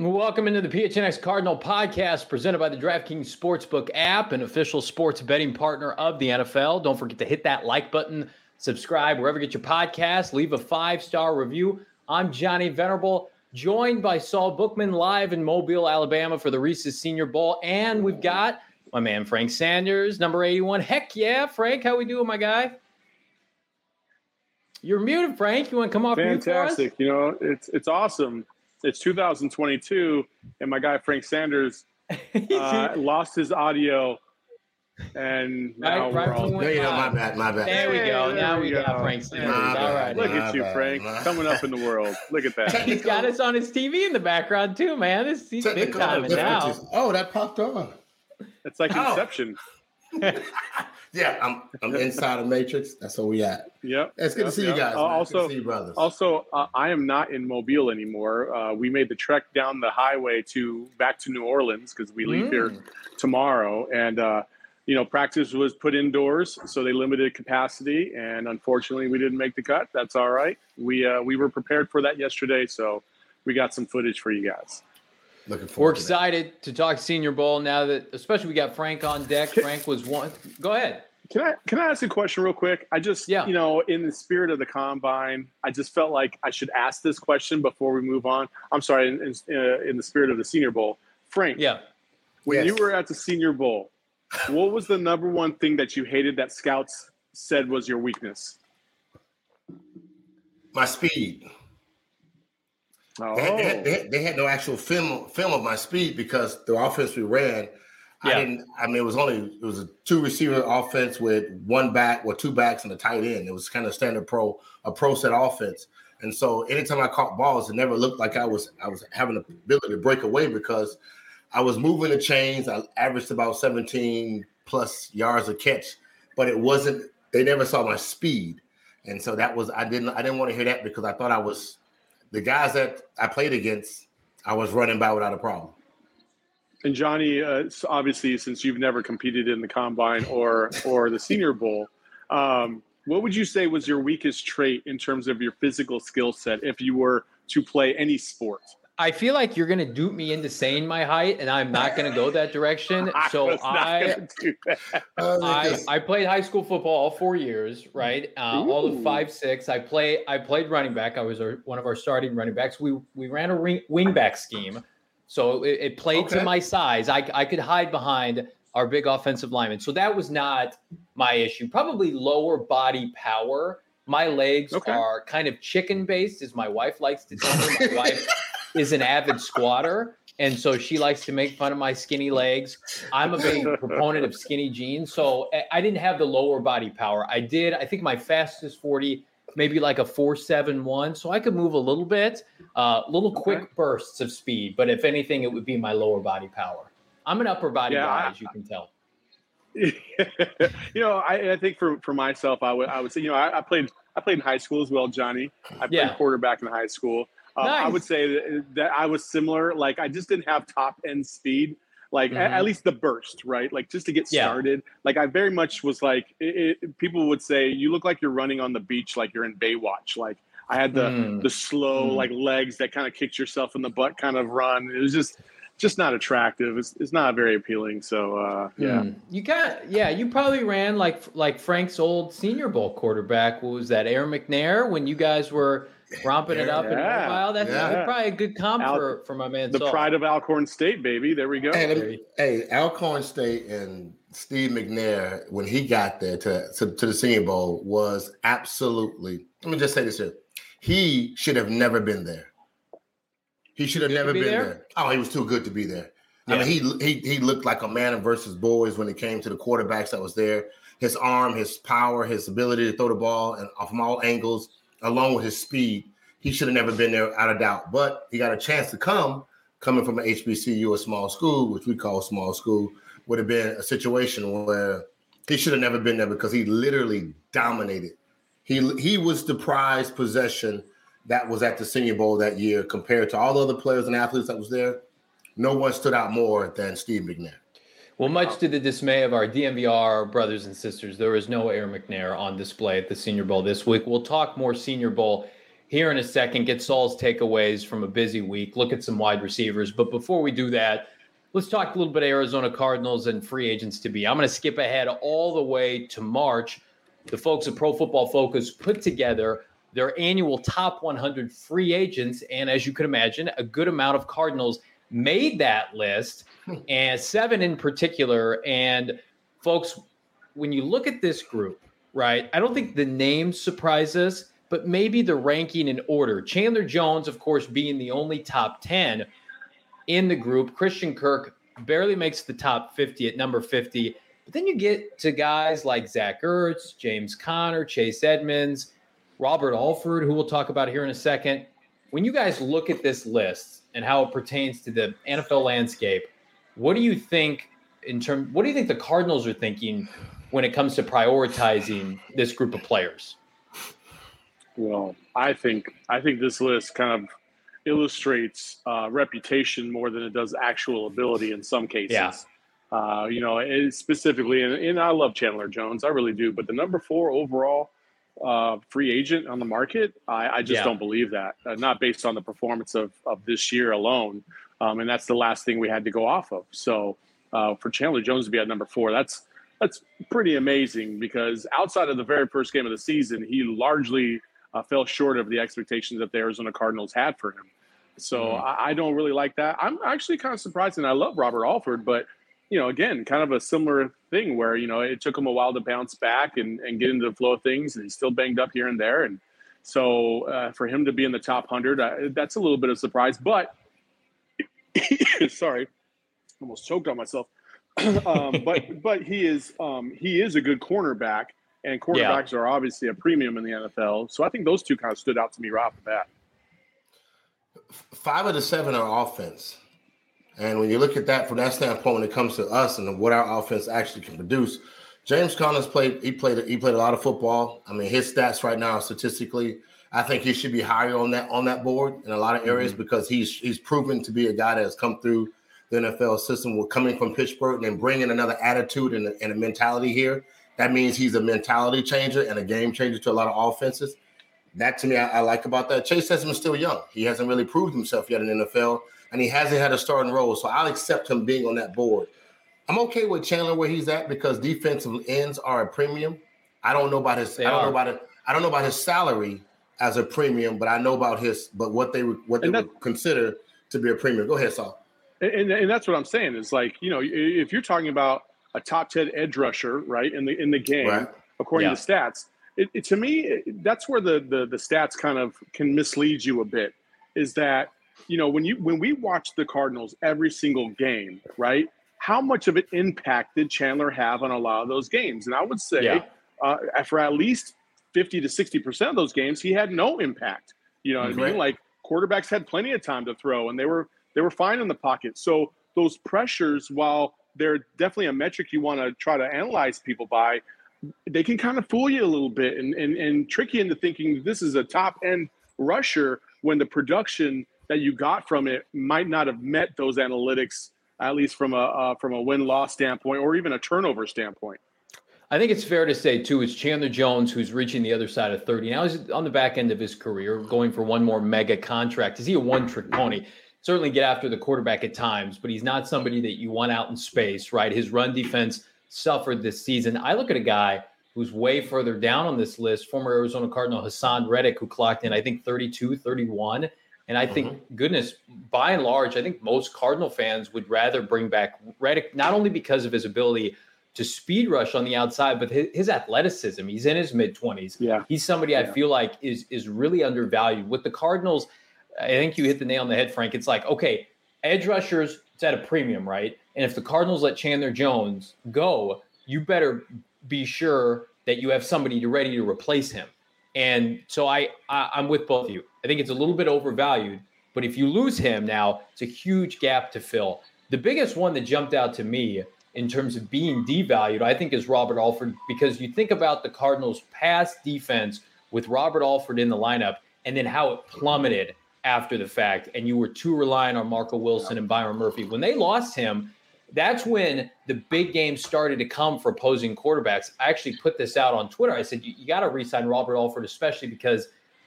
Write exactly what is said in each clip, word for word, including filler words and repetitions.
Welcome into the P H N X Cardinal podcast presented by the DraftKings Sportsbook app, an official sports betting partner of the N F L. Don't forget to hit that like button, subscribe wherever you get your podcast, leave a five-star review. I'm Johnny Venerable, joined by Saul Bookman live in Mobile, Alabama for the Reese's Senior Bowl. And we've got my man Frank Sanders, number eighty-one. Heck yeah, Frank, how we doing, my guy? You're muted, Frank. You want to come off mute for us? Fantastic. You know, it's it's awesome. It's two thousand twenty-two, and my guy Frank Sanders uh, lost his audio, and now Right, right we're all. when we No, you know, my live. bad, my bad. There we go. Hey, now there we we got go. Frank Sanders. My All bad. right. Look My at you, bad, Frank, my- coming up in the world. Look at that. He's got us on his T V in the background too, man. This he's big Technical time now. differences. Oh, that popped on. It's like Oh. Inception. Yeah, I'm I'm inside of Matrix. That's where we at. Yep. It's good Yep, to see yep. you guys. Uh, man. Good also, to see you brothers. Also, uh, I am not in Mobile anymore. Uh, we made the trek down the highway to back to New Orleans because we leave Mm. here tomorrow, and uh, you know, practice was put indoors, so they limited capacity, and unfortunately, we didn't make the cut. That's all right. We uh, we were prepared for that yesterday, so we got some footage for you guys. Looking We're forward to that. excited to talk Senior Bowl now that, especially we got Frank on deck. Frank was one. Go ahed. Can I can I ask a question real quick? I just Yeah. you know, in the spirit of the combine, I just felt like I should ask this question before we move on. I'm sorry, in in, uh, in the spirit of the Senior Bowl, Frank. Yeah. When Yes. you were at the Senior Bowl, what was the number one thing that you hated that scouts said was your weakness? My speed. Oh, They, had, they, had, they, had, they had no actual film film of my speed because the offense we ran, Yeah. I didn't. I mean, it was only it was a two receiver offense with one back or two backs and a tight end. It was kind of standard pro a pro set offense. And so anytime I caught balls, it never looked like I was I was having the ability to break away because I was moving the chains. I averaged about seventeen plus yards a catch, but it wasn't. They never saw my speed, and so that was I didn't I didn't want to hear that because I thought I was the guys that I played against. I was running by without a problem. and Johnny, uh, so obviously, since you've never competed in the combine or or the Senior Bowl, um, what would you say was your weakest trait in terms of your physical skill set if you were to play any sport? I feel like you're going to dupe me into saying my height, and I'm not going to go that direction. So was not I, gonna do that. I, I played high school football all four years, right? Uh, all of Ooh. five, six. I play. I played running back. I was our, one of our starting running backs. We we ran a ring, wing back scheme, so it, it played to Okay. my size. I I could hide behind our big offensive lineman, so that was not my issue. Probably lower body power. My legs Okay. are kind of chicken based, as my wife likes to tell me. My wife is an avid squatter, and so she likes to make fun of my skinny legs. I'm a big proponent of skinny jeans, so I- I didn't have the lower body power. I did. I think my fastest forty, maybe like a four seven one, so I could move a little bit, uh, little quick Okay. bursts of speed. But if anything, it would be my lower body power. I'm an upper body Yeah, guy, I- as you can tell. you know, I, I think for, for myself, I would I would say, you know, I, I played I played in high school as well, Johnny. I played Yeah. quarterback in high school. Um, I Nice. would say that, that I was similar. Like I just didn't have top end speed, like Mhm. at, at least the burst, right? Like just to get Yeah. started. Like I very much was like, it, it, people would say, you look like you're running on the beach, like you're in Baywatch. Like I had the Mm. the slow Mm. like legs that kind of kicked yourself in the butt kind of run. It was just just not attractive. It's, it's not very appealing. So uh, yeah. Mm. You got yeah. You probably ran like like Frank's old Senior Bowl quarterback. What was that? Aaron McNair when you guys were romping it up in Yeah. Mobile. That's Yeah. probably a good comp Al- for, for my man. The Saul. pride of Alcorn State, baby. There we go. Hey, let me- hey, Alcorn State and Steve McNair, when he got there to, to, to the Senior Bowl, was absolutely, let me just say this here. He should have never been there. He should have good to never be been there? there? Oh, he was too good to be there. Yeah. I mean, he, he he looked like a man versus boys when it came to the quarterbacks that was there. His arm, his power, his ability to throw the ball and from all angles, along with his speed. He should have never been there, out of doubt. But he got a chance to come, coming from an H B C U, a small school, which we call small school, would have been a situation where he should have never been there because he literally dominated. He he was the prized possession that was at the Senior Bowl that year compared to all the other players and athletes that was there. No one stood out more than Steve McNair. Well, much to the dismay of our D M V R brothers and sisters, there was no Aaron McNair on display at the Senior Bowl this week. We'll talk more Senior Bowl here in a second, get Saul's takeaways from a busy week, look at some wide receivers. But before we do that, let's talk a little bit of Arizona Cardinals and free agents to be. I'm going to skip ahead all the way to March. The folks at Pro Football Focus put together their annual top one hundred free agents. And as you can imagine, a good amount of Cardinals made that list, and seven in particular. And folks, when you look at this group, right, I don't think the names surprise us, but maybe the ranking in order. Chandler Jones, of course, being the only top ten in the group. Christian Kirk barely makes the top fifty at number fifty. But then you get to guys like Zach Ertz, James Conner, Chase Edmonds, Robert Alford, who we'll talk about here in a second. When you guys look at this list and how it pertains to the N F L landscape, what do you think in terms, what do you think the Cardinals are thinking when it comes to prioritizing this group of players? Well, I think I think this list kind of illustrates uh, reputation more than it does actual ability in some cases. Yeah. Uh, you know, it specifically, and, and I love Chandler Jones, I really do. But the number four overall uh, free agent on the market, I, I just yeah. don't believe that. Uh, not based on the performance of of this year alone, um, and that's the last thing we had to go off of. So uh, for Chandler Jones to be at number four, that's that's pretty amazing, because outside of the very first game of the season, he largely Uh, fell short of the expectations that the Arizona Cardinals had for him. So mm-hmm. I, I don't really like that. I'm actually kind of surprised, and I love Robert Alford, but, you know, again, kind of a similar thing where, you know, it took him a while to bounce back and, and get into the flow of things, and he's still banged up here and there. And so uh, for him to be in the top one hundred, uh, that's a little bit of a surprise. But, sorry, almost choked on myself. um, but but he is um, he is a good cornerback. And quarterbacks yeah. are obviously a premium in the N F L. So I think those two kind of stood out to me right off the bat. Five of the seven are offense. And when you look at that from that standpoint, when it comes to us and what our offense actually can produce, James Conner's played, he played, he played a lot of football. I mean, his stats right now, statistically, I think he should be higher on that, on that board in a lot of areas, mm-hmm. because he's, he's proven to be a guy that has come through the N F L system. We're coming from Pittsburgh and then bringing another attitude and a, and a mentality here. That means he's a mentality changer and a game changer to a lot of offenses. That, to me, I, I like about that. Chase Edmonds is still young. He hasn't really proved himself yet in the N F L, and he hasn't had a starting role. So I'll accept him being on that board. I'm okay with Chandler where he's at, because defensive ends are a premium. I don't know about his. They I don't are. know about it. I don't know about his salary as a premium, but I know about his. But what they what they would consider to be a premium. Go ahead, Saul. And, and that's what I'm saying is, like, you know, if you're talking about a top ten edge rusher, right, in the in the game, right. according yeah. to stats, it, it, to me, it, that's where the, the the stats kind of can mislead you a bit. Is that, you know, when you when we watch the Cardinals every single game, right, how much of an impact did Chandler have on a lot of those games? And I would say yeah. uh, for at least fifty to sixty percent of those games, he had no impact. You know what mm-hmm. I mean? Like, quarterbacks had plenty of time to throw, and they were they were fine in the pocket. So those pressures, while they're definitely a metric you want to try to analyze people by, they can kind of fool you a little bit and, and, and trick you into thinking this is a top-end rusher when the production that you got from it might not have met those analytics, at least from a uh, from a win-loss standpoint or even a turnover standpoint. I think it's fair to say, too, it's Chandler Jones who's reaching the other side of thirty. Now he's on the back end of his career, going for one more mega contract. Is he a one-trick pony? Certainly get after the quarterback at times, but he's not somebody that you want out in space, right? His run defense suffered this season. I look at a guy who's way further down on this list, former Arizona Cardinal Hassan Reddick, who clocked in, I think, thirty-two, thirty-one. And I think, mm-hmm. goodness, by and large, I think most Cardinal fans would rather bring back Reddick, not only because of his ability to speed rush on the outside, but his, his athleticism. He's in his mid-twenties. Yeah. He's somebody yeah. I feel like is is really undervalued. With the Cardinals, I think you hit the nail on the head, Frank. It's like, okay, edge rushers, it's at a premium, right? And if the Cardinals let Chandler Jones go, you better be sure that you have somebody ready to replace him. And so I, I, I'm with both of you. I think it's a little bit overvalued, but if you lose him now, it's a huge gap to fill. The biggest one that jumped out to me in terms of being devalued, I think, is Robert Alford, because you think about the Cardinals' past defense with Robert Alford in the lineup and then how it plummeted after the fact, and you were too reliant on Marco Wilson and Byron Murphy. When they lost him, that's when the big games started to come for opposing quarterbacks. I actually put this out on Twitter. I said, you, you got to re-sign Robert Alford, especially because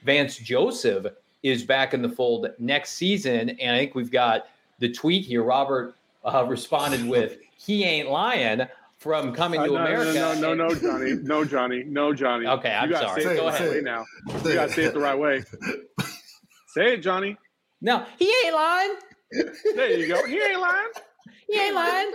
Vance Joseph is back in the fold next season. And I think we've got the tweet here. Robert uh, responded with, he ain't lying from Coming to uh, no, America. No, no, no, no, Johnny. No, Johnny. No, Johnny. Okay, I'm you sorry. Say it Go the ahead. right way now. You got to say it the right way. Say it, Johnny. No, he ain't lying. There you go. He ain't lying. He ain't lying.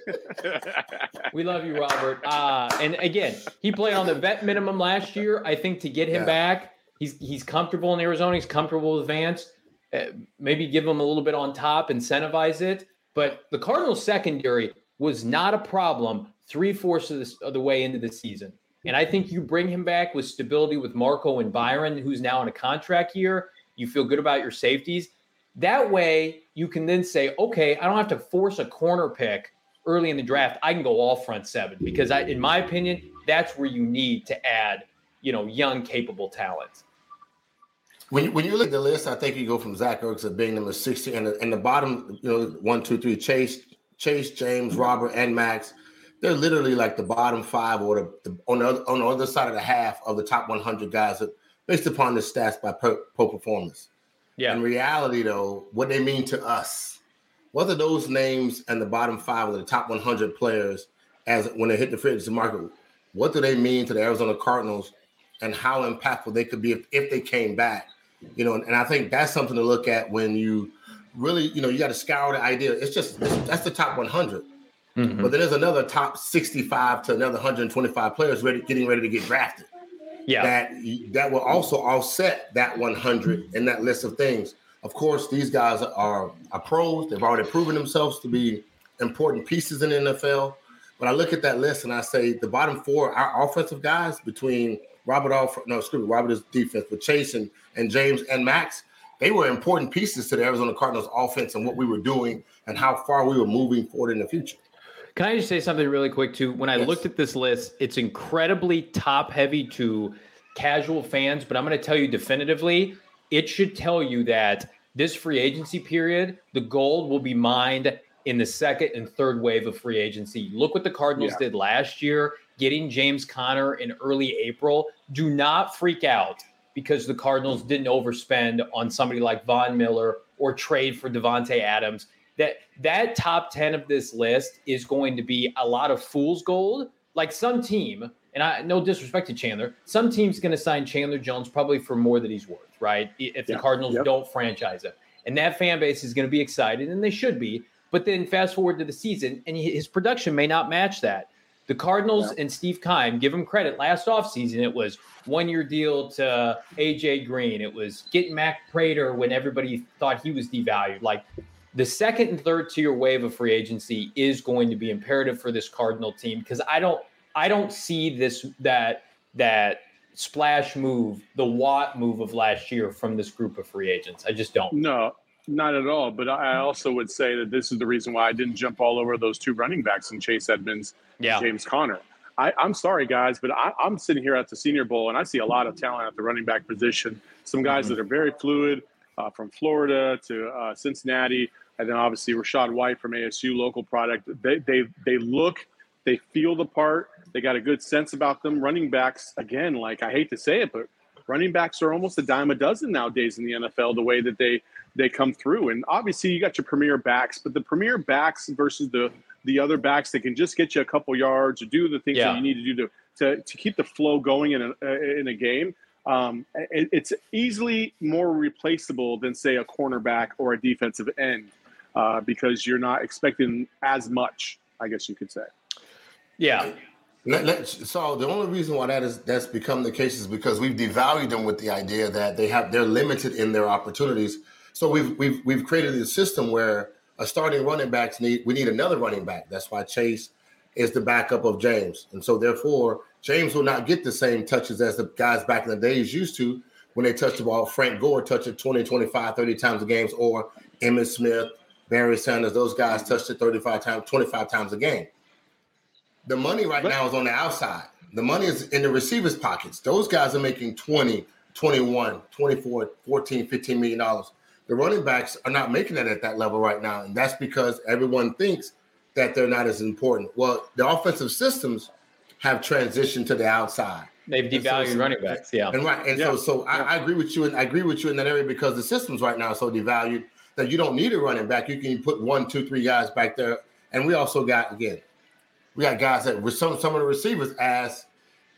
We love you, Robert. Uh, and again, he played on the vet minimum last year. I think to get him Yeah. back, he's he's comfortable in Arizona. He's comfortable with Vance. Uh, maybe give him a little bit on top, incentivize it. But the Cardinals secondary was not a problem three-fourths of, this, of the way into the season. And I think you bring him back with stability with Marco and Byron, who's now in a contract year. You feel good about your safeties. That way, you can then say, okay, I don't have to force a corner pick early in the draft. I can go all front seven because, I, in my opinion, that's where you need to add, you know, young, capable talent. When you, when you look at the list, I think you go from Zach Ertz at being number sixty, and the, and the bottom, you know, one, two, three, Chase, Chase, James, Robert, and Max. They're literally like the bottom five or the, the on the other, on the other side of the half of the top one hundred guys, that, based upon the stats by Pro, Pro Performance. Yeah. In reality, though, what they mean to us, what are those names and the bottom five of the top one hundred players as when they hit the free agency market? What do they mean to the Arizona Cardinals, and how impactful they could be if, if they came back? You know, and, and I think that's something to look at when you really, you know, you got to scour the idea. It's just it's, that's the top one hundred, mm-hmm. But then there's another top sixty-five to another one hundred twenty-five players ready, getting ready to get drafted. Yeah, that that will also offset that one hundred in that list of things. Of course, these guys are, are pros. They've already proven themselves to be important pieces in the N F L. But I look at that list and I say the bottom four, our offensive guys between Robert, Alf- no, excuse me, Robert is defense, but Chase and, and James and Max, they were important pieces to the Arizona Cardinals offense and what we were doing and how far we were moving forward in the future. Can I just say something really quick, too? When I yes. looked at this list, it's incredibly top-heavy to casual fans, but I'm going to tell you definitively, it should tell you that this free agency period, the gold will be mined in the second and third wave of free agency. Look what the Cardinals yeah. did last year, getting James Conner in early April. Do not freak out because the Cardinals didn't overspend on somebody like Von Miller or trade for Devontae Adams. That that top ten of this list is going to be a lot of fool's gold. Like some team, and I no disrespect to Chandler, some team's going to sign Chandler Jones probably for more than he's worth, right? If the yeah, Cardinals yep. don't franchise him. And that fan base is going to be excited, and they should be. But then fast forward to the season, and his production may not match that. The Cardinals yeah. and Steve Keim, give him credit, last offseason it was one-year deal to A J Green. It was getting Mac Prater when everybody thought he was devalued. Like, the second and third tier wave of free agency is going to be imperative for this Cardinal team because I don't I don't see this that that splash move, the Watt move of last year from this group of free agents. I just don't. No, not at all. But I also would say that this is the reason why I didn't jump all over those two running backs in Chase Edmonds yeah. and James Conner. I, I'm sorry, guys, but I, I'm sitting here at the Senior Bowl, and I see a lot of talent at the running back position. Some guys mm-hmm. that are very fluid uh, from Florida to uh, Cincinnati. And then obviously Rashad White from A S U, local product. They they they look, they feel the part. They got a good sense about them. Running backs, again, like I hate to say it, but running backs are almost a dime a dozen nowadays in the N F L, the way that they they come through. And obviously you got your premier backs, but the premier backs versus the the other backs that can just get you a couple yards or do the things yeah. that you need to do to, to, to keep the flow going in a, in a game. Um, it, it's easily more replaceable than, say, a cornerback or a defensive end. Uh, because you're not expecting as much, I guess you could say. Yeah. Let, let, so the only reason why that is that's become the case is because we've devalued them with the idea that they have they're limited in their opportunities. So we've we've we've created a system where a starting running backs need we need another running back. That's why Chase is the backup of James, and so therefore James will not get the same touches as the guys back in the days used to when they touched the ball. Frank Gore touched it twenty, twenty-five, thirty times a game, or Emmitt Smith, Barry Sanders, those guys touched it thirty-five times, twenty-five times a game. The money right now is on the outside. The money is in the receivers' pockets. Those guys are making twenty, twenty-one, twenty-four, fourteen, fifteen million dollars. The running backs are not making that at that level right now, and that's because everyone thinks that they're not as important. Well, the offensive systems have transitioned to the outside. They've devalued so, running backs, yeah. And right, and yeah. so so I, I agree with you, and I agree with you in that area because the systems right now are so devalued that you don't need a running back. You can put one, two, three guys back there, and we also got again, we got guys that with some some of the receivers as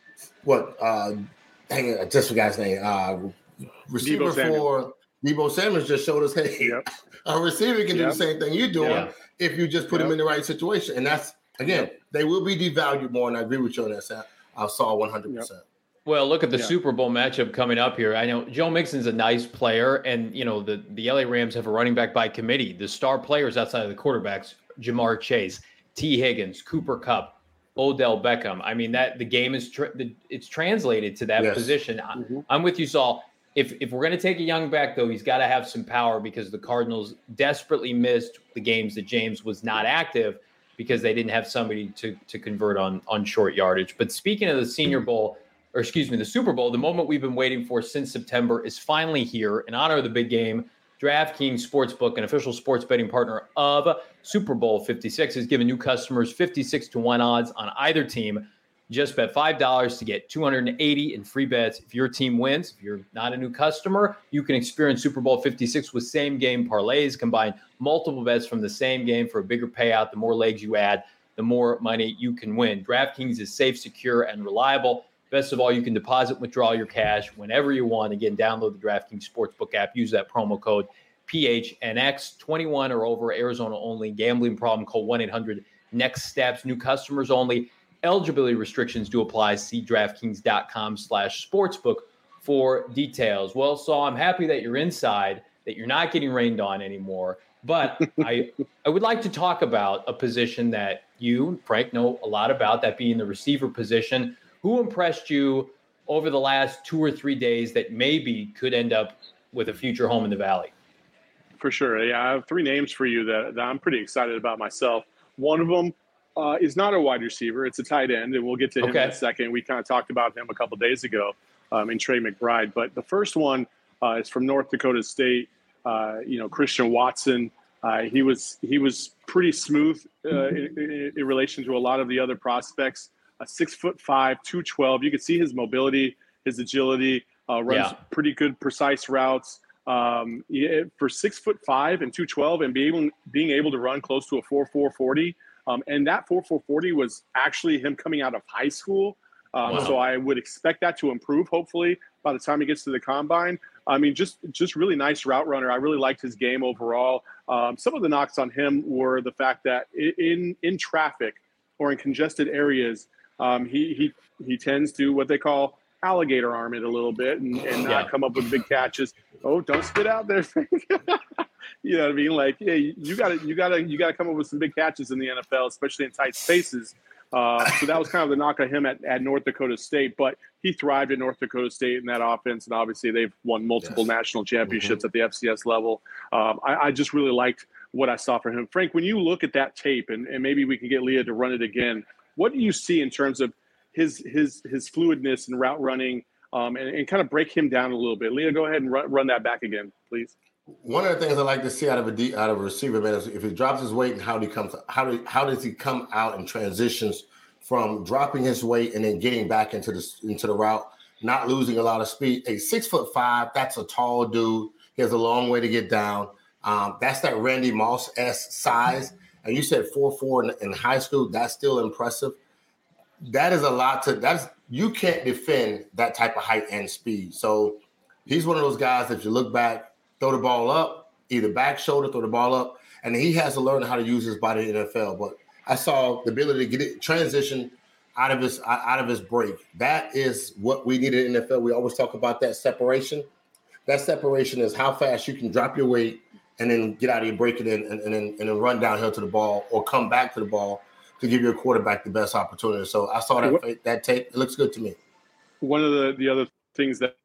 what uh, dang it, I just forgot his name. Uh, receiver Deebo for Deebo Samuels just showed us, hey, yep. a receiver can yep. do the same thing you're doing yep. if you just put yep. him in the right situation, and that's again, yep. they will be devalued more, and I agree with you on that, Sam. I saw one hundred percent. Well, look at the yeah. Super Bowl matchup coming up here. I know Joe Mixon's a nice player, and, you know, the, the L A Rams have a running back by committee. The star players outside of the quarterbacks, Jamar Chase, T. Higgins, Cooper Kupp, Odell Beckham. I mean, that the game is tra- it's translated to that yes. position. Mm-hmm. I'm with you, Saul. If if we're going to take a young back, though, he's got to have some power because the Cardinals desperately missed the games that James was not active because they didn't have somebody to to convert on on short yardage. But speaking of the Senior Bowl, or excuse me, the Super Bowl, the moment we've been waiting for since September is finally here. In honor of the big game, DraftKings Sportsbook, an official sports betting partner of Super Bowl fifty-six, has given new customers fifty-six to one odds on either team. Just bet five dollars to get two hundred eighty in free bets. If your team wins, if you're not a new customer, you can experience Super Bowl fifty-six with same-game parlays. Combine multiple bets from the same game for a bigger payout. The more legs you add, the more money you can win. DraftKings is safe, secure, and reliable. Best of all, you can deposit and withdraw your cash whenever you want. Again, download the DraftKings Sportsbook app. Use that promo code P H N X. twenty-one or over, Arizona only. Gambling problem, call one eight hundred next steps. New customers only. Eligibility restrictions do apply. See DraftKings.com slash sportsbook for details. Well, Saul, I'm happy that you're inside, that you're not getting rained on anymore. But I I would like to talk about a position that you, Frank, know a lot about, that being the receiver position. Who impressed you over the last two or three days that maybe could end up with a future home in the Valley? For sure. Yeah, I have three names for you that, that I'm pretty excited about myself. One of them uh, is not a wide receiver. It's a tight end, and we'll get to him okay. in a second. We kind of talked about him a couple of days ago um, in Trey McBride. But the first one uh, is from North Dakota State, uh, you know, Christian Watson. Uh, he was he was pretty smooth uh, in, in, in relation to a lot of the other prospects. A six foot five, two twelve. You can see his mobility, his agility, uh, runs yeah. pretty good, precise routes. Um, yeah, for six foot five and two twelve, and being able, being able to run close to a four four forty. Um, and that four four forty was actually him coming out of high school. Um, wow. So I would expect that to improve, hopefully, by the time he gets to the combine. I mean, just just really nice route runner. I really liked his game overall. Um, some of the knocks on him were the fact that in in traffic or in congested areas, um, he he he tends to what they call alligator arm it a little bit and, and not yeah. come up with big catches. Oh, don't spit out there. You know what I mean? Like, hey, you got to you got to you got to come up with some big catches in the N F L, especially in tight spaces. Uh, so that was kind of the knock on him at, at North Dakota State, but he thrived at North Dakota State in that offense, and obviously they've won multiple yes. national championships mm-hmm. at the F C S level. Um, I, I just really liked what I saw from him. Frank, when you look at that tape, and, and maybe we can get Leah to run it again, what do you see in terms of his his his fluidness and route running, um, and, and kind of break him down a little bit? Leah, go ahead and run, run that back again, please. One of the things I like to see out of a de- out of a receiver, man, is if he drops his weight and how he comes, how do, how does he come out and transitions from dropping his weight and then getting back into the into the route, not losing a lot of speed. A six foot five, that's a tall dude. He has a long way to get down. Um, that's that Randy Moss-esque size. And you said four four in, in high school. That's still impressive. That is a lot to. That's you can't defend that type of height and speed. So he's one of those guys that you look back, throw the ball up, either back shoulder, throw the ball up, and he has to learn how to use his body in the N F L. But I saw the ability to get it transition out of his out of his break. That is what we need in the N F L. We always talk about that separation. That separation is how fast you can drop your weight and then get out of your break and then and, and then and then run downhill to the ball or come back to the ball to give your quarterback the best opportunity. So I saw that that tape. It looks good to me. One of the, the other things that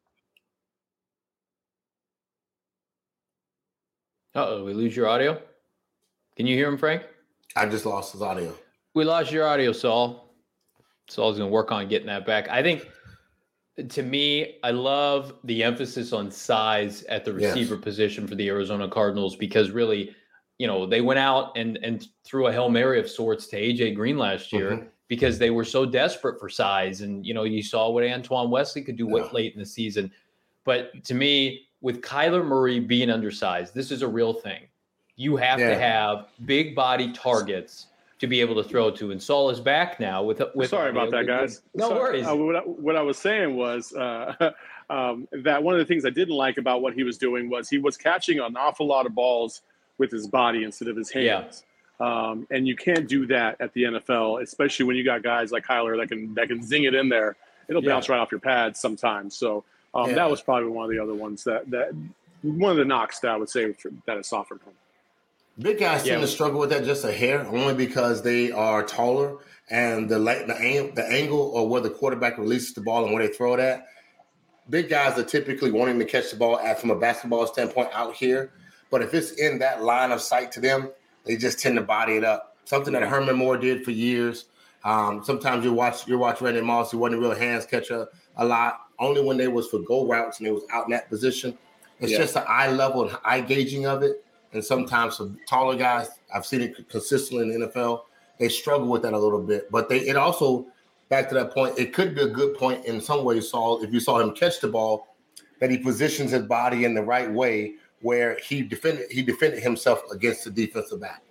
Uh-oh, we lose your audio? Can you hear him, Frank? I just lost his audio. We lost your audio, Saul. Saul's going to work on getting that back. I think, to me, I love the emphasis on size at the receiver yes. position for the Arizona Cardinals because really, you know, they went out and, and threw a Hail Mary of sorts to A J Green last year. Mm-hmm. because they were so desperate for size. And, you know, you saw what Antoine Wesley could do Yeah. late in the season. But to me, with Kyler Murray being undersized, this is a real thing. You have Yeah. to have big body targets to be able to throw to. And Saul is back now with with. Sorry about that, guys. No Sorry. worries. Uh, what, I, what I was saying was uh, um, that one of the things I didn't like about what he was doing was he was catching an awful lot of balls with his body instead of his hands. Yeah. Um, and you can't do that at the N F L, especially when you got guys like Kyler that can that can zing it in there. It'll Yeah. bounce right off your pads sometimes. So um, Yeah. that was probably one of the other ones that that one of the knocks that I would say that it softened him. Big guys Yeah. tend to struggle with that just a hair, only because they are taller and the the, ang- the angle or where the quarterback releases the ball and where they throw it at. Big guys are typically wanting to catch the ball at, from a basketball standpoint out here. But if it's in that line of sight to them, they just tend to body it up. Something that Herman Moore did for years. Um, sometimes you watch you watch Randy Moss, he wasn't a real hands catcher a lot, only when they was for go routes and they was out in that position. It's Yeah. just the eye level and eye gauging of it. And sometimes for taller guys, I've seen it consistently in the N F L, they struggle with that a little bit. But they it also, back to that point, it could be a good point in some ways, Saul, if you saw him catch the ball, that he positions his body in the right way where he defended he defended himself against the defensive back.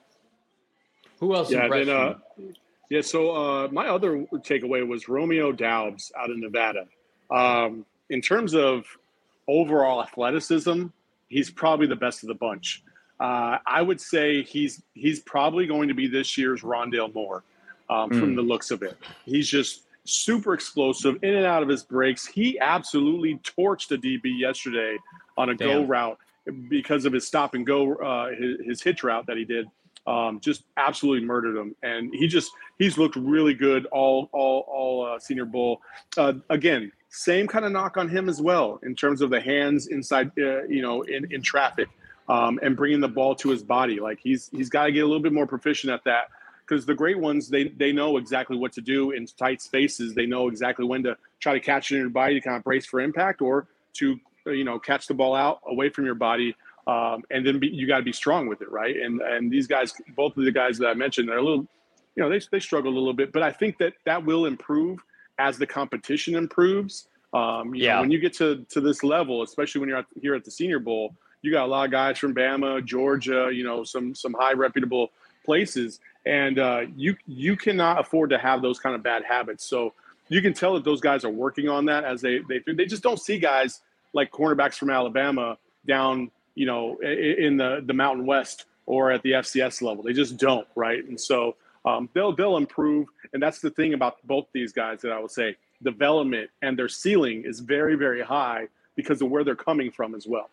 Who else Yeah, impressed then, uh, you? yeah. So uh, my other takeaway was Romeo Doubs out of Nevada. Um, in terms of overall athleticism, he's probably the best of the bunch. Uh, I would say he's he's probably going to be this year's Rondale Moore um, Mm. from the looks of it. He's just super explosive in and out of his breaks. He absolutely torched a D B yesterday on a go Damn. route because of his stop and go, uh, his, his hitch route that he did. Um, just absolutely murdered him, and he just he's looked really good all all all uh, Senior Bowl. Uh, again, same kind of knock on him as well in terms of the hands inside, uh, you know, in in traffic, um, and bringing the ball to his body. Like he's he's got to get a little bit more proficient at that, because the great ones they they know exactly what to do in tight spaces. They know exactly when to try to catch it in your body to kind of brace for impact, or to you know catch the ball out away from your body. Um, and then be, you got to be strong with it, right? And and these guys, both of the guys that I mentioned, are a little, you know, they they struggle a little bit, but I think that that will improve as the competition improves. Um, you Yeah. know, when you get to to this level, especially when you're at, here at the Senior Bowl, you got a lot of guys from Bama, Georgia, you know, some some high reputable places, and uh, you you cannot afford to have those kind of bad habits. So you can tell that those guys are working on that as they they they just don't see guys like cornerbacks from Alabama down, you know, in the, the Mountain West or at the F C S level. They just don't, right? And so um, they'll they'll improve. And that's the thing about both these guys that I would say, development and their ceiling is very, very high because of where they're coming from as well.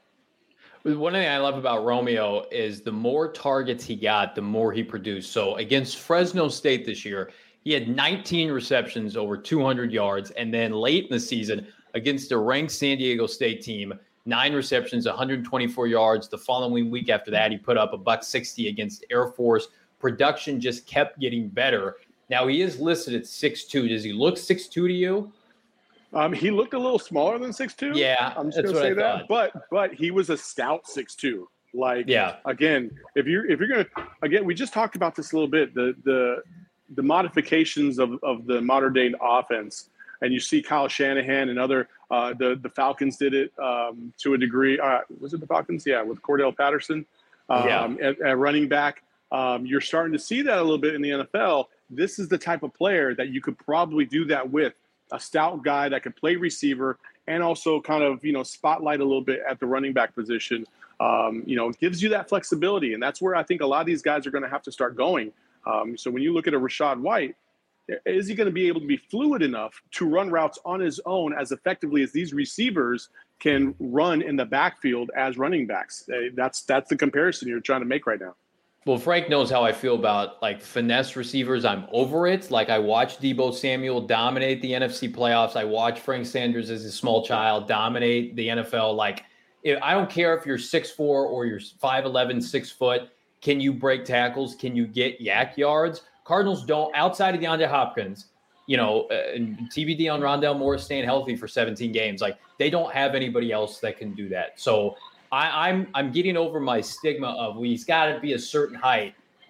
One thing I love about Romeo is the more targets he got, the more he produced. So against Fresno State this year, he had nineteen receptions over two hundred yards. And then late in the season against the ranked San Diego State team, nine receptions, one hundred twenty-four yards. The following week after that, he put up a buck sixty against Air Force. Production just kept getting better. Now he is listed at six two. Does he look six two to you? Um, he looked a little smaller than six two. Yeah, I'm just that's gonna what say I that. thought. But but he was a stout six two. Like Yeah. again, if you're if you're gonna again, we just talked about this a little bit. The the the modifications of, of the modern day offense, and you see Kyle Shanahan and other uh, the the Falcons did it um, to a degree. Uh, was it the Falcons? Yeah, with Cordell Patterson um, Yeah. at, at running back. Um, you're starting to see that a little bit in the N F L. This is the type of player that you could probably do that with. A stout guy that could play receiver and also kind of, you know, spotlight a little bit at the running back position. Um, you know, it gives you that flexibility. And that's where I think a lot of these guys are going to have to start going. Um, so when you look at a Rachaad White, is he going to be able to be fluid enough to run routes on his own as effectively as these receivers can run in the backfield as running backs? Uh, That's that's the comparison you're trying to make right now. Well, Frank knows how I feel about like finesse receivers. I'm over it. Like I watched Deebo Samuel dominate the N F C playoffs. I watched Frank Sanders as a small child dominate the N F L. Like if, I don't care if you're six four or you're five eleven, six foot. Can you break tackles? Can you get yak yards? Cardinals don't, outside of DeAndre Hopkins, you know, uh, and T B D on Rondale Moore staying healthy for seventeen games. Like they don't have anybody else that can do that. So I, I'm I'm getting over my stigma of well, he's got to be a certain height.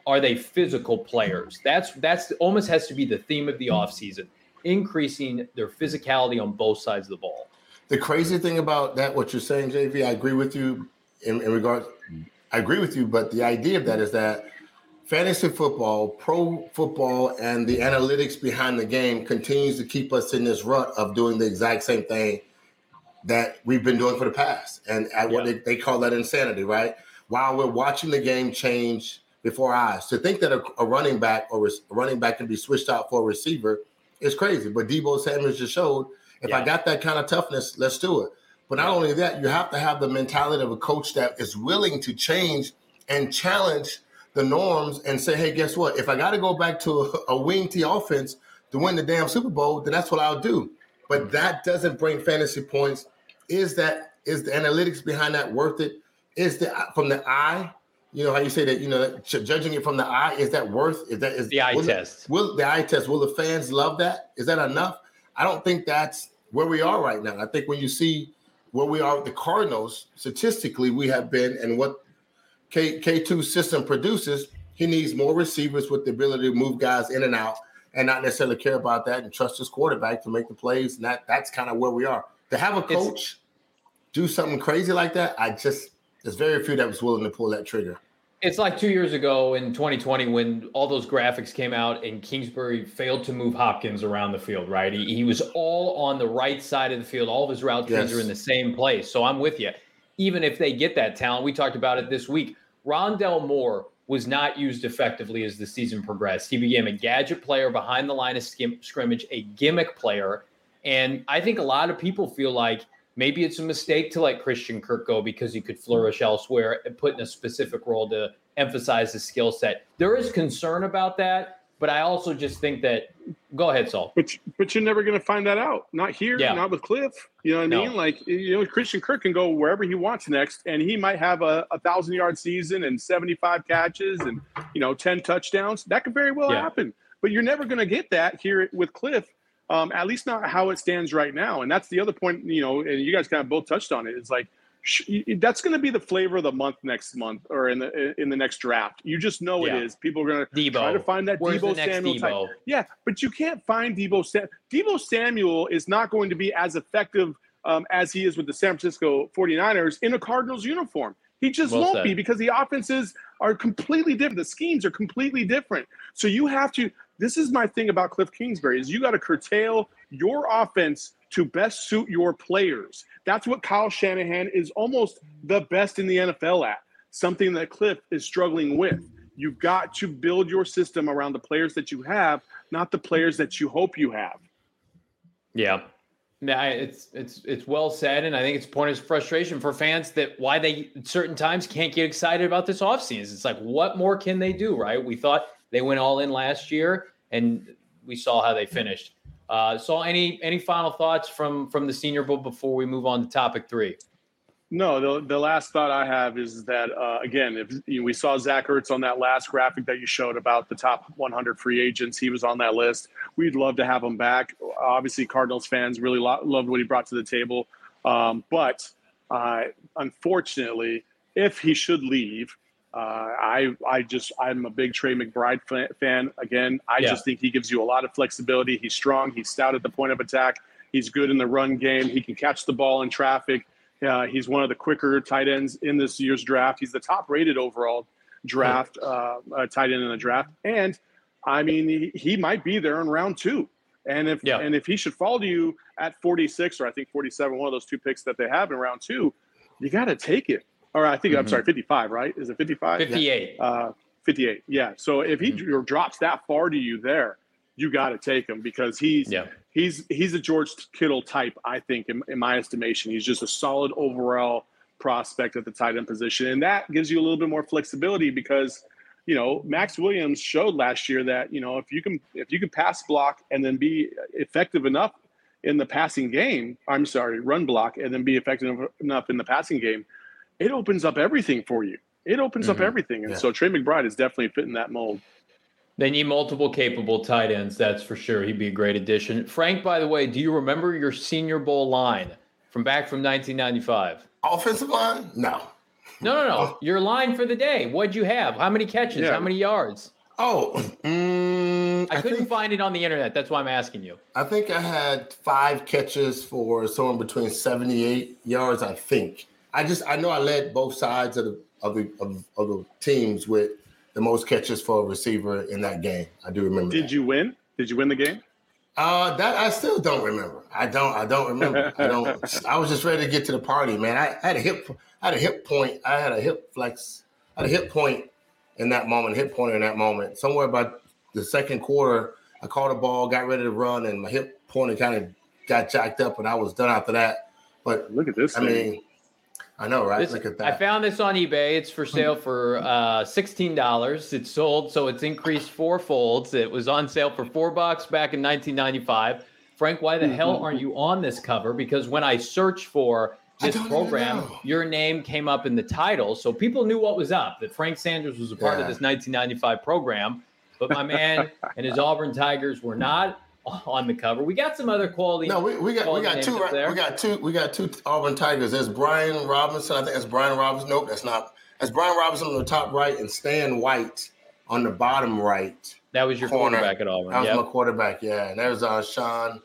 are they physical players? That's that's almost has to be the theme of the offseason, increasing their physicality on both sides of the ball. The crazy thing about that, what you're saying, J V, I agree with you in, in regards. I agree with you, but the idea of that is that fantasy football, pro football, and the analytics behind the game continues to keep us in this rut of doing the exact same thing that we've been doing for the past. And at what yeah. they, they call that insanity, right? While we're watching the game change before our eyes. To think that a, a running back or a running back can be switched out for a receiver is crazy. But Deebo Samuel just showed, if yeah. I got that kind of toughness, let's do it. But not yeah. only that, you have to have the mentality of a coach that is willing to change and challenge the norms and say, hey, guess what? If I got to go back to a, a wing T offense to win the damn Super Bowl, then that's what I'll do. But that doesn't bring fantasy points. Is that is the analytics behind that worth it? Is the from the eye? You know how you say that? You know, judging it from the eye, is that worth? Is that is the eye will test? The, will the eye test? Will the fans love that? Is that enough? I don't think that's where we are right now. I think when you see where we are with the Cardinals, statistically, we have been, and what K K2 system produces, he needs more receivers with the ability to move guys in and out, and not necessarily care about that and trust his quarterback to make the plays. And that that's kind of where we are. To have a coach it's, do something crazy like that, I just there's very few that was willing to pull that trigger. It's like two years ago in twenty twenty when all those graphics came out and Kingsbury failed to move Hopkins around the field, right? He, he was all on the right side of the field. All of his route trees yes. are in the same place. So I'm with you. Even if they get that talent, we talked about it this week. Rondell Moore was not used effectively as the season progressed. He became a gadget player behind the line of skim, scrimmage, a gimmick player. And I think a lot of people feel like maybe it's a mistake to let Christian Kirk go because he could flourish elsewhere and put in a specific role to emphasize his skill set. There is concern about that, but I also just think that – go ahead, Saul. But, but you're never going to find that out. Not here, yeah. not with Cliff. You know what I mean? No. Like, you know, Christian Kirk can go wherever he wants next, and he might have a, a thousand-yard season and seventy-five catches and, you know, ten touchdowns. That could very well yeah. happen. But you're never going to get that here with Cliff. Um, at least not how it stands right now. And that's the other point, you know, and you guys kind of both touched on it. It's like, sh- that's going to be the flavor of the month next month or in the in the next draft. You just know yeah. it is. People are going to try to find that Where's Deebo Samuel Deebo? type. Yeah, but you can't find Deebo Samuel. Deebo Samuel is not going to be as effective um, as he is with the San Francisco forty-niners in a Cardinals uniform. He just well won't said. be because the offenses are completely different. The schemes are completely different. So you have to – this is my thing about Cliff Kingsbury is you got to curtail your offense to best suit your players. That's what Kyle Shanahan is almost the best in the N F L at, something that Cliff is struggling with. You've got to build your system around the players that you have, not the players that you hope you have. Yeah. Yeah, it's it's it's well said, and I think it's a point of frustration for fans that why they at certain times can't get excited about this offseason. It's like, what more can they do, right? We thought they went all in last year, and we saw how they finished. Uh, so any any final thoughts from from the Senior Bowl before we move on to topic three? No, the the last thought I have is that, uh, again, if you know, we saw Zach Ertz on that last graphic that you showed about the top one hundred free agents. He was on that list. We'd love to have him back. Obviously, Cardinals fans really lo- loved what he brought to the table. Um, but uh, unfortunately, if he should leave, uh, I I just I'm a big Trey McBride fan. Again, I yeah. just think he gives you a lot of flexibility. He's strong. He's stout at the point of attack. He's good in the run game. He can catch the ball in traffic. Uh, he's one of the quicker tight ends in this year's draft. He's the top-rated overall draft uh, uh, tight end in the draft, and I mean he, he might be there in round two. And if yeah. and if he should fall to you at forty-six or I think forty-seven, one of those two picks that they have in round two, you got to take it. Or I think mm-hmm. I'm sorry, fifty-five, right? Is it fifty-five? fifty-eight. Uh, fifty-eight. Yeah. So if he mm-hmm. drops that far to you there, you got to take him because he's yeah. he's he's a George Kittle type, I think, in, in my estimation. He's just a solid overall prospect at the tight end position. And that gives you a little bit more flexibility because, you know, Max Williams showed last year that, you know, if you can if you can pass block and then be effective enough in the passing game, I'm sorry, run block and then be effective enough in the passing game, it opens up everything for you. It opens mm-hmm. up everything. And yeah. so Trey McBride is definitely fitting that mold. They need multiple capable tight ends, that's for sure. He'd be a great addition. Frank, by the way, do you remember your Senior Bowl line from back from nineteen ninety-five? Offensive line? No. No, no, no. Oh. Your line for the day. What'd you have? How many catches? Yeah. How many yards? Oh, mm, I, I couldn't think, find it on the internet. That's why I'm asking you. I think I had five catches for somewhere between seventy-eight yards. I think. I just I know I led both sides of the of the of, of the teams with the most catches for a receiver in that game. I do remember. Did that. you win? Did you win the game? Uh, that I still don't remember. I don't. I don't remember. I don't. I was just ready to get to the party, man. I, I had a hip. I had a hip point. I had a hip flex. I had a hip point in that moment. Hip pointer in that moment. Somewhere about the second quarter, I caught a ball, got ready to run, and my hip pointer kind of got jacked up, and I was done after that. But look at this. I thing. mean, I know, right? This, look at that. I found this on eBay. It's for sale for uh, sixteen dollars. It's sold, so it's increased four folds. It was on sale for four bucks back in nineteen ninety-five. Frank, why the hell aren't you on this cover? Because when I searched for this program, your name came up in the title, so people knew what was up, that Frank Sanders was a part yeah. of this nineteen ninety-five program. But my man and his Auburn Tigers were not on the cover. We got some other quality. No, we, we got we got two. Right, we got two. We got two Auburn Tigers. There's Brian Robinson. I think that's Brian Robinson. Nope, that's not. That's Brian Robinson on the top right and Stan White on the bottom right. That was your corner. quarterback at Auburn. That was yep. my quarterback. Yeah, and there's uh, Sean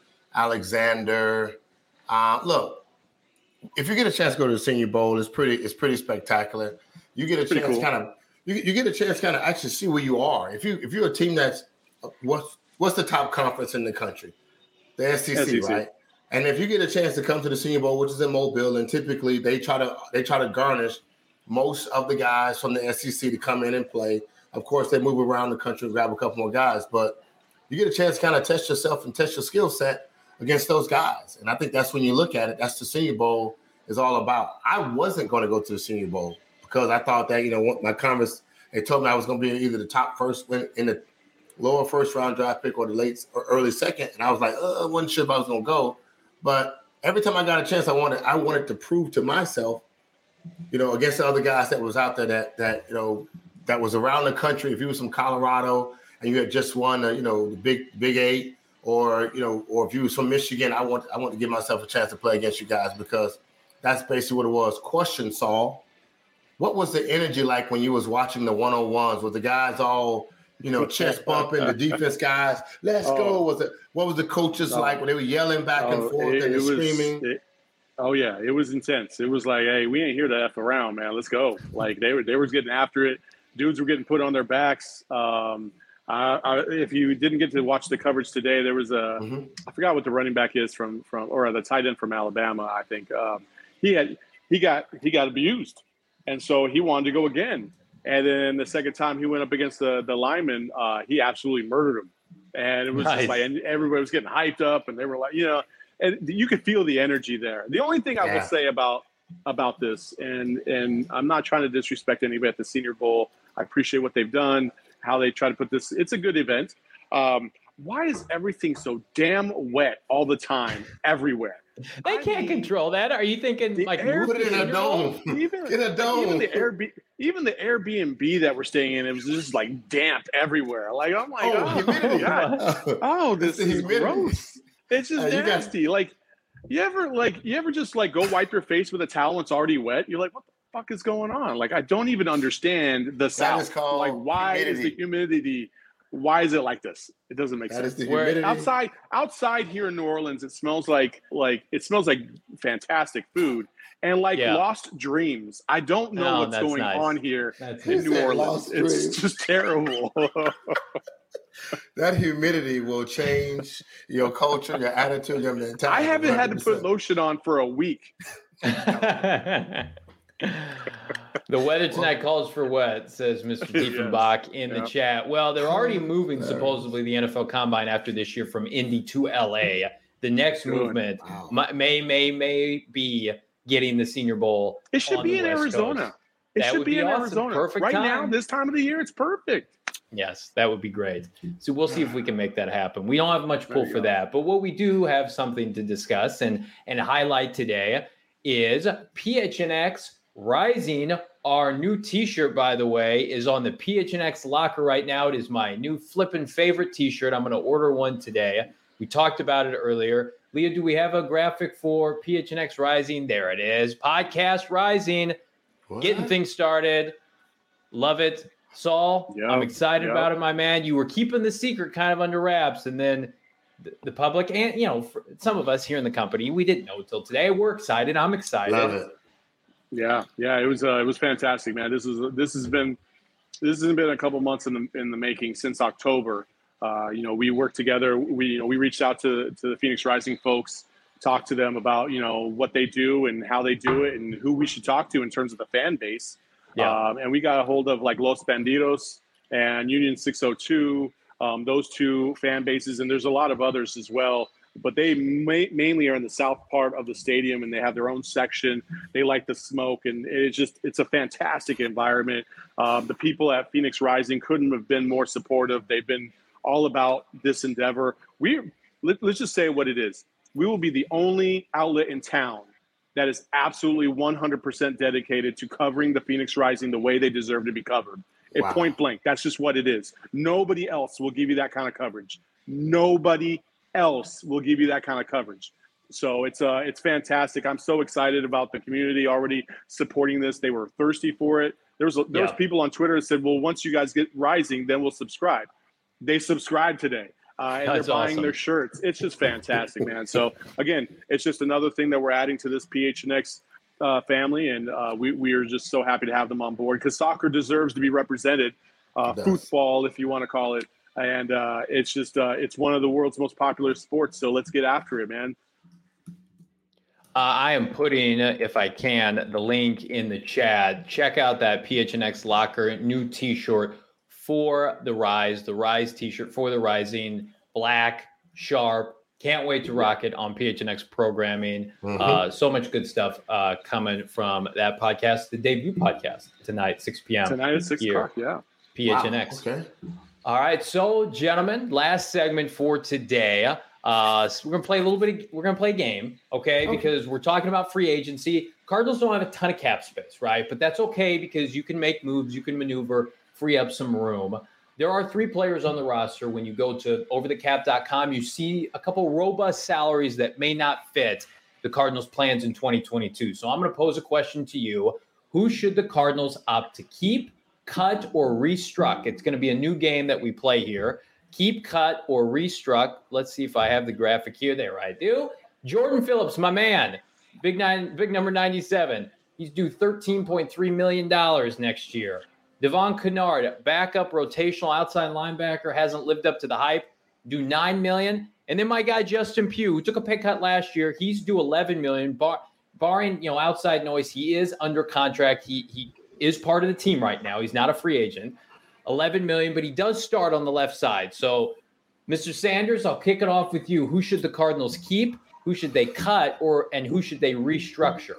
Alexander. Uh, look, if you get a chance to go to the Senior Bowl, it's pretty. It's pretty spectacular. You get a Pretty chance, cool. kind of. You, you get a chance, kind of actually see where you are. If you if you're a team that's what's what's the top conference in the country, the S E C, S E C. right? And if you get a chance to come to the Senior Bowl, which is in Mobile, and typically they try to they try to garnish most of the guys from the S E C to come in and play. Of course, they move around the country and grab a couple more guys, but you get a chance to kind of test yourself and test your skill set against those guys. And I think that's when you look at it. That's the Senior Bowl is all about. I wasn't going to go to the Senior Bowl because I thought that, you know, my converse, they told me I was going to be either the top first in the lower first round draft pick or the late or early second. And I was like, uh, I wasn't sure if I was going to go. But every time I got a chance, I wanted, I wanted to prove to myself, you know, against the other guys that was out there that, that, you know, that was around the country. If you was from Colorado and you had just won, uh, you know, the big, big eight, or, you know, or if you was from Michigan, I want, I want to give myself a chance to play against you guys, because that's basically what it was. Question, Saul, what was the energy like when you was watching the one-on-ones? Was the guys all, you know, chest bumping, the defense guys, let's oh. go? Was it, what was the coaches oh. like when they were yelling back oh, and forth it, and it screaming? Was, it, oh yeah, it was intense. It was like, hey, we ain't here to F around, man. Let's go. Like they were, they were getting after it. Dudes were getting put on their backs. Um, I, I, if you didn't get to watch the coverage today, there was a, mm-hmm. I forgot what the running back is from, from, or the tight end from Alabama. I think um, he had, he got, he got abused. And so he wanted to go again. And then the second time he went up against the, the lineman, uh, he absolutely murdered him. And it was nice. Just like, and everybody was getting hyped up, and they were like, you know, and you could feel the energy there. The only thing I yeah. will say about, about this, and, and I'm not trying to disrespect anybody at the Senior Bowl. I appreciate what they've done, how they try to put this. It's a good event. Um, why is everything so damn wet all the time, everywhere? They I can't mean, control that. Are you thinking like Airbnb, put it in a dome? Even, in a dome. Even the Airbnb, even the Airbnb that we're staying in, it was just like damp everywhere. Like I'm like, oh, oh, humidity. God. oh this is humidity. Gross. It's just uh, nasty. Got... Like you ever like you ever just like go wipe your face with a towel and it's already wet? You're like, what the fuck is going on? Like I don't even understand the South. Like why humidity. Is the humidity? Why is it like this? It doesn't make that sense. Is the humidity. Outside, outside here in New Orleans, it smells like like it smells like fantastic food and like yeah. lost dreams. I don't know no, what's going nice. on here that's in New Orleans. It's dreams. just terrible. That humidity will change your culture, your attitude, your mentality. I haven't one hundred percent had to put lotion on for a week. The weather tonight calls for wet, says Mister Diefenbach yes. in the yeah. chat. Well, they're already moving, supposedly, the N F L Combine after this year from Indy to L A. The next Good. movement wow. may, may, may be getting the Senior Bowl. It should be in West Arizona. Coast. It that should be, be in awesome. Arizona. Perfect right time. now, this time of the year, it's perfect. Yes, that would be great. So we'll see if we can make that happen. We don't have much pull for go. that, but what we do have something to discuss and, and highlight today is P H N X Rising. Our new t-shirt, by the way, is on the P H N X locker right now. It is my new flippin' favorite t-shirt. I'm going to order one today. We talked about it earlier. Leah, do we have a graphic for P H N X Rising? There it is. Podcast Rising. What? getting things started. Love it. Saul, Yep, I'm excited yep. about it, my man. You were keeping the secret kind of under wraps, and then the, the public and, you know, for some of us here in the company, we didn't know until today. We're excited. I'm excited. Love it. Yeah, yeah, it was uh, it was fantastic, man. This is this has been this has been a couple months in the in the making since October. Uh, you know, we worked together. We you know we reached out to to the Phoenix Rising folks, talked to them about you know what they do and how they do it, and who we should talk to in terms of the fan base. Yeah. Um, and we got a hold of like Los Bandidos and Union six oh two, um, those two fan bases, and there's a lot of others as well. But they ma- mainly are in the south part of the stadium, and they have their own section. They like the smoke, and it's just it's a fantastic environment. Um, the people at Phoenix Rising couldn't have been more supportive. They've been all about this endeavor. We let, let's just say what it is. We will be the only outlet in town that is absolutely one hundred percent dedicated to covering the Phoenix Rising the way they deserve to be covered. At Wow. point blank, that's just what it is. Nobody else will give you that kind of coverage. Nobody else will give you that kind of coverage. So it's uh it's fantastic. I'm so excited about the community already supporting this. They were thirsty for it. There was there was Yeah. people on Twitter that said, "Well, once you guys get Rising, then we'll subscribe." They subscribed today. Uh, and That's they're buying awesome. their shirts. It's just fantastic, man. So again, it's just another thing that we're adding to this P H N X uh, family, and uh, we we are just so happy to have them on board because soccer deserves to be represented, uh, It does. football, if you want to call it, and uh, it's just uh, it's one of the world's most popular sports. So let's get after it, man. Uh, I am putting, if I can, the link in the chat. Check out that P H N X Locker new T-shirt for the Rise, the Rise T-shirt for the Rising, black, sharp. Can't wait to rock it on P H N X programming. Mhm. Uh, so much good stuff uh, coming from that podcast, the debut podcast tonight, six p.m. Tonight at six here, o'clock. Yeah. P H N X. Wow. Okay. All right, so gentlemen, last segment for today. Uh, so we're gonna play a little bit. Of, we're gonna play a game, okay? Okay. Because we're talking about free agency. Cardinals don't have a ton of cap space, right? But that's okay because you can make moves, you can maneuver, free up some room. There are three players on the roster. When you go to over the cap dot com, you see a couple robust salaries that may not fit the Cardinals' plans in twenty twenty-two. So I'm going to pose a question to you: who should the Cardinals opt to keep, cut, or restruck? It's going to be a new game that we play here. Keep, cut, or restruck. Let's see if I have the graphic here. There I do. Jordan Phillips, my man, big nine, big number ninety-seven. He's due thirteen point three million dollars next year. Devon Kennard, backup rotational outside linebacker, hasn't lived up to the hype, due nine million dollars. And then my guy Justin Pugh, who took a pay cut last year, he's due eleven million dollars. Bar, barring you know outside noise, he is under contract. He he is part of the team right now. He's not a free agent. eleven million dollars, but he does start on the left side. So, Mister Sanders, I'll kick it off with you. Who should the Cardinals keep? Who should they cut? Or and who should they restructure?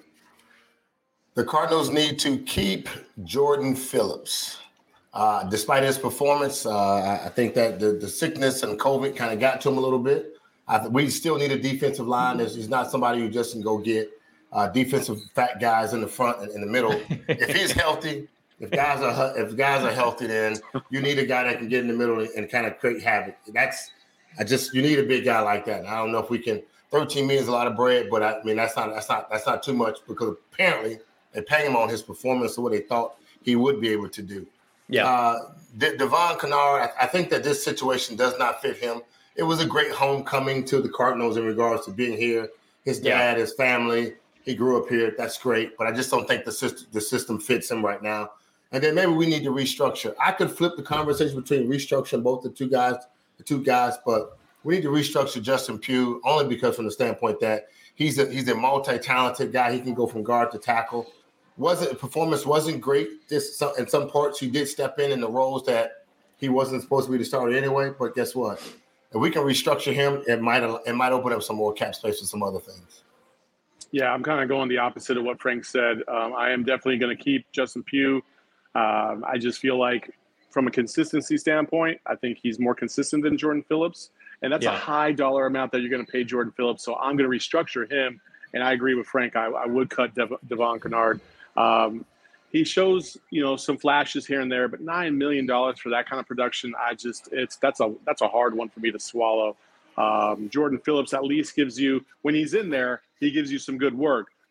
The Cardinals need to keep Jordan Phillips. Uh, despite his performance, uh, I think that the, the sickness and COVID kind of got to him a little bit. I th- we still need a defensive line. There's, he's not somebody who just can go get uh, defensive fat guys in the front and in the middle. If he's healthy, if guys are if guys are healthy, then you need a guy that can get in the middle and, and kind of create havoc. That's I just you need a big guy like that. And I don't know if we can. thirteen million is a lot of bread, but I mean that's not that's not that's not too much because apparently they're paying him on his performance or what they thought he would be able to do. Yeah. Uh, De- Devon Kennard, I, I think that this situation does not fit him. It was a great homecoming to the Cardinals in regards to being here. His dad, Yeah. his family, he grew up here. That's great, but I just don't think the system the system fits him right now. And then maybe we need to restructure. I could flip the conversation between restructuring both the two guys, the two guys, but we need to restructure Justin Pugh only because from the standpoint that he's a he's a multi-talented guy. He can go from guard to tackle. Wasn't performance wasn't great. This in some parts he did step in in the roles that he wasn't supposed to be the starter anyway. But guess what? If we can restructure him, it might it might open up some more cap space for some other things. Yeah, I'm kind of going the opposite of what Frank said. Um, I am definitely going to keep Justin Pugh. Um, I just feel like from a consistency standpoint, I think he's more consistent than Jordan Phillips. And that's Yeah. a high dollar amount that you're going to pay Jordan Phillips. So I'm going to restructure him. And I agree with Frank. I, I would cut Dev- Devon Kennard. Um, he shows, you know, some flashes here and there, but nine million dollars for that kind of production, I just, it's, that's a, that's a hard one for me to swallow. Um, Jordan Phillips at least gives you, when he's in there, he gives you some good work.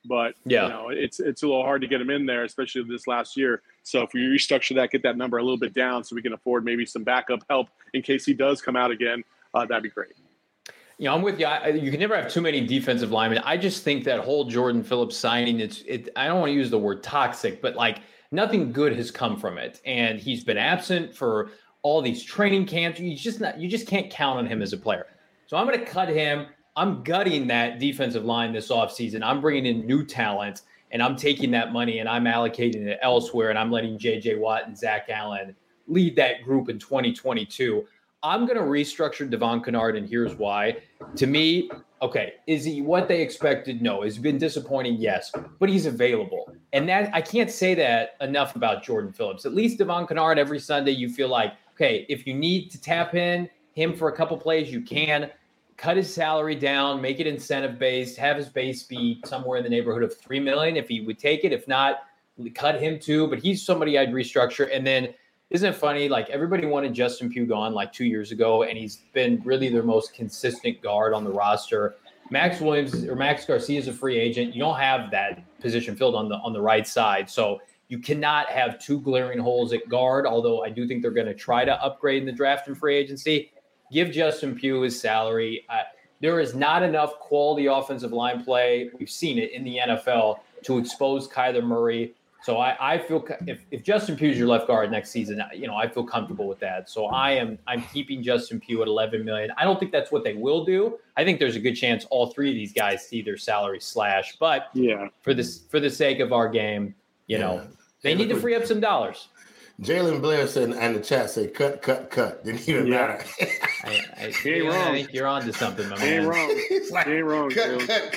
but yeah. you know, it's it's a little hard to get him in there, especially this last year. So if we restructure that, get that number a little bit down so we can afford maybe some backup help in case he does come out again, uh, that'd be great. You know, I'm with you. I, you can never have too many defensive linemen. I just think that whole Jordan Phillips signing, it's it. I don't want to use the word toxic, but like nothing good has come from it. And he's been absent for all these training camps. You just not, you just can't count on him as a player. So I'm going to cut him. I'm gutting that defensive line this offseason. I'm bringing in new talent, and I'm taking that money and I'm allocating it elsewhere, and I'm letting J J Watt and Zach Allen lead that group in twenty twenty-two. I'm going to restructure Devon Kennard, and here's why. To me, okay, is he what they expected? No. Has he been disappointing? Yes. But he's available. And that I can't say that enough about Jordan Phillips. At least Devon Kennard, every Sunday you feel like, okay, if you need to tap in him for a couple plays, you can. Cut his salary down, make it incentive-based, have his base be somewhere in the neighborhood of three million dollars if he would take it. If not, cut him too. But he's somebody I'd restructure. And then isn't it funny? Like everybody wanted Justin Pugh gone like two years ago, and he's been really their most consistent guard on the roster. Max Williams or Max Garcia is a free agent. You don't have that position filled on the on the right side, so you cannot have two glaring holes at guard. Although I do think they're going to try to upgrade in the draft and free agency. Give Justin Pugh his salary. Uh, there is not enough quality offensive line play. We've seen it in the N F L to expose Kyler Murray. So I, I feel if, if Justin Pugh is your left guard next season, you know, I feel comfortable with that. So I am I'm keeping Justin Pugh at eleven million dollars. I don't think that's what they will do. I think there's a good chance all three of these guys see their salary slash. But yeah, for this for the sake of our game, you yeah. know, they need to free up some dollars. Jalen Blair said in the chat, say cut, cut, cut. Didn't even yeah. matter. I, I, he ain't wrong. I think you're on to something, my he man. Ain't wrong. like, he ain't wrong. Cut, cut.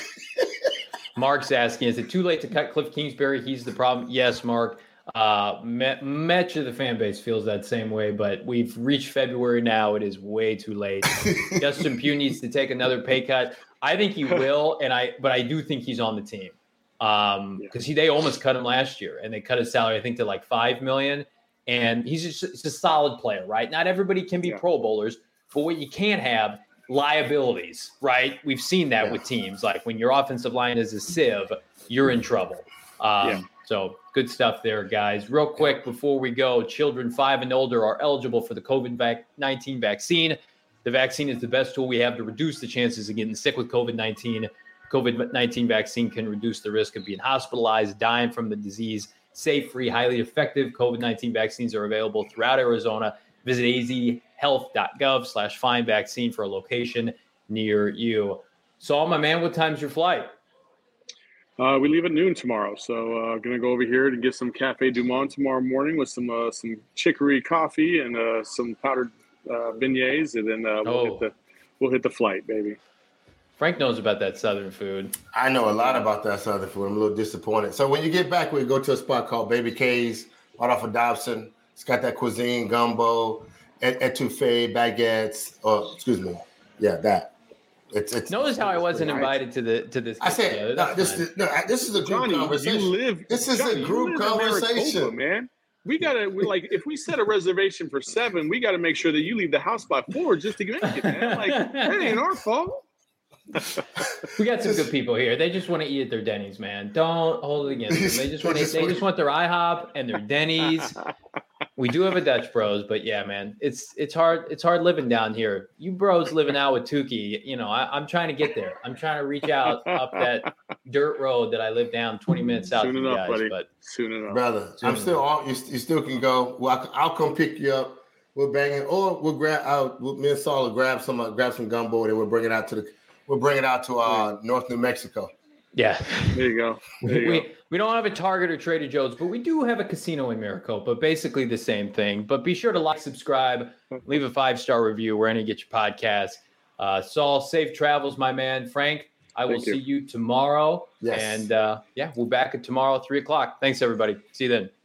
Mark's asking, is it too late to cut Cliff Kingsbury? He's the problem. Yes, Mark. Uh, much of the fan base feels that same way, but we've reached February now. It is way too late. Justin Pugh needs to take another pay cut. I think he will, and I, but I do think he's on the team um, because he they almost cut him last year, and they cut his salary I think to like five million dollars. And he's just, just a solid player, right? Not everybody can be yeah. Pro Bowlers, but what you can't have liabilities, right? We've seen that yeah. with teams. Like when your offensive line is a sieve, you're in trouble. Um, yeah. So good stuff there, guys. Real quick before we go, children five and older are eligible for the COVID nineteen vaccine. The vaccine is the best tool we have to reduce the chances of getting sick with COVID nineteen. COVID nineteen vaccine can reduce the risk of being hospitalized, dying from the disease. Safe, free, highly effective COVID nineteen vaccines are available throughout Arizona. Visit azhealth.gov slash find vaccine for a location near you. Saul, my man, what time's your flight? Uh, we leave at noon tomorrow, so uh, going to go over here to get some Cafe Du Monde tomorrow morning with some uh, some chicory coffee and uh, some powdered uh, beignets, and then uh, we'll oh. hit the we'll hit the flight, baby. Frank knows about that Southern food. I know a lot about that Southern food. I'm a little disappointed. So when you get back, we go to a spot called Baby K's, right off of Dobson. It's got that cuisine, gumbo, etouffee, baguettes. Oh, excuse me. Yeah, that. It's, it's, Notice it's, how I wasn't nice. invited to the to this. I said no, this is no, this is a group Johnny, conversation. You live, this is Johnny, a group conversation, Maricopa, man. We gotta we like if we set a reservation for seven, we got to make sure that you leave the house by four just to make it, man. Like that ain't our fault. We got some good people here. They just want to eat at their Denny's, man. Don't hold it against them. They just want to. They just want their IHOP and their Denny's. We do have a Dutch Bros, but yeah, man, it's it's hard. It's hard living down here. You bros living out with Tukey, you know, I, I'm trying to get there. I'm trying to reach out up that dirt road that I live down twenty minutes south Soon of enough, you guys. buddy. But soon enough, brother. Soon I'm still all. You, you still can go. Well, I, I'll come pick you up. We'll bang it, or we'll grab out. We'll, me and Saul will grab some, uh, grab some gumbo, and we'll bring it out to the. We'll bring it out to uh, North New Mexico. Yeah, there you go. There you we go. we don't have a Target or Trader Joe's, but we do have a casino in Maricopa. Basically the same thing. But be sure to like, subscribe, leave a five star review wherever you get your podcast. Uh, Saul, safe travels, my man. Frank, I will Thank you. see you tomorrow. Yes. And uh, yeah, we're back at tomorrow at three o'clock. Thanks, everybody. See you then.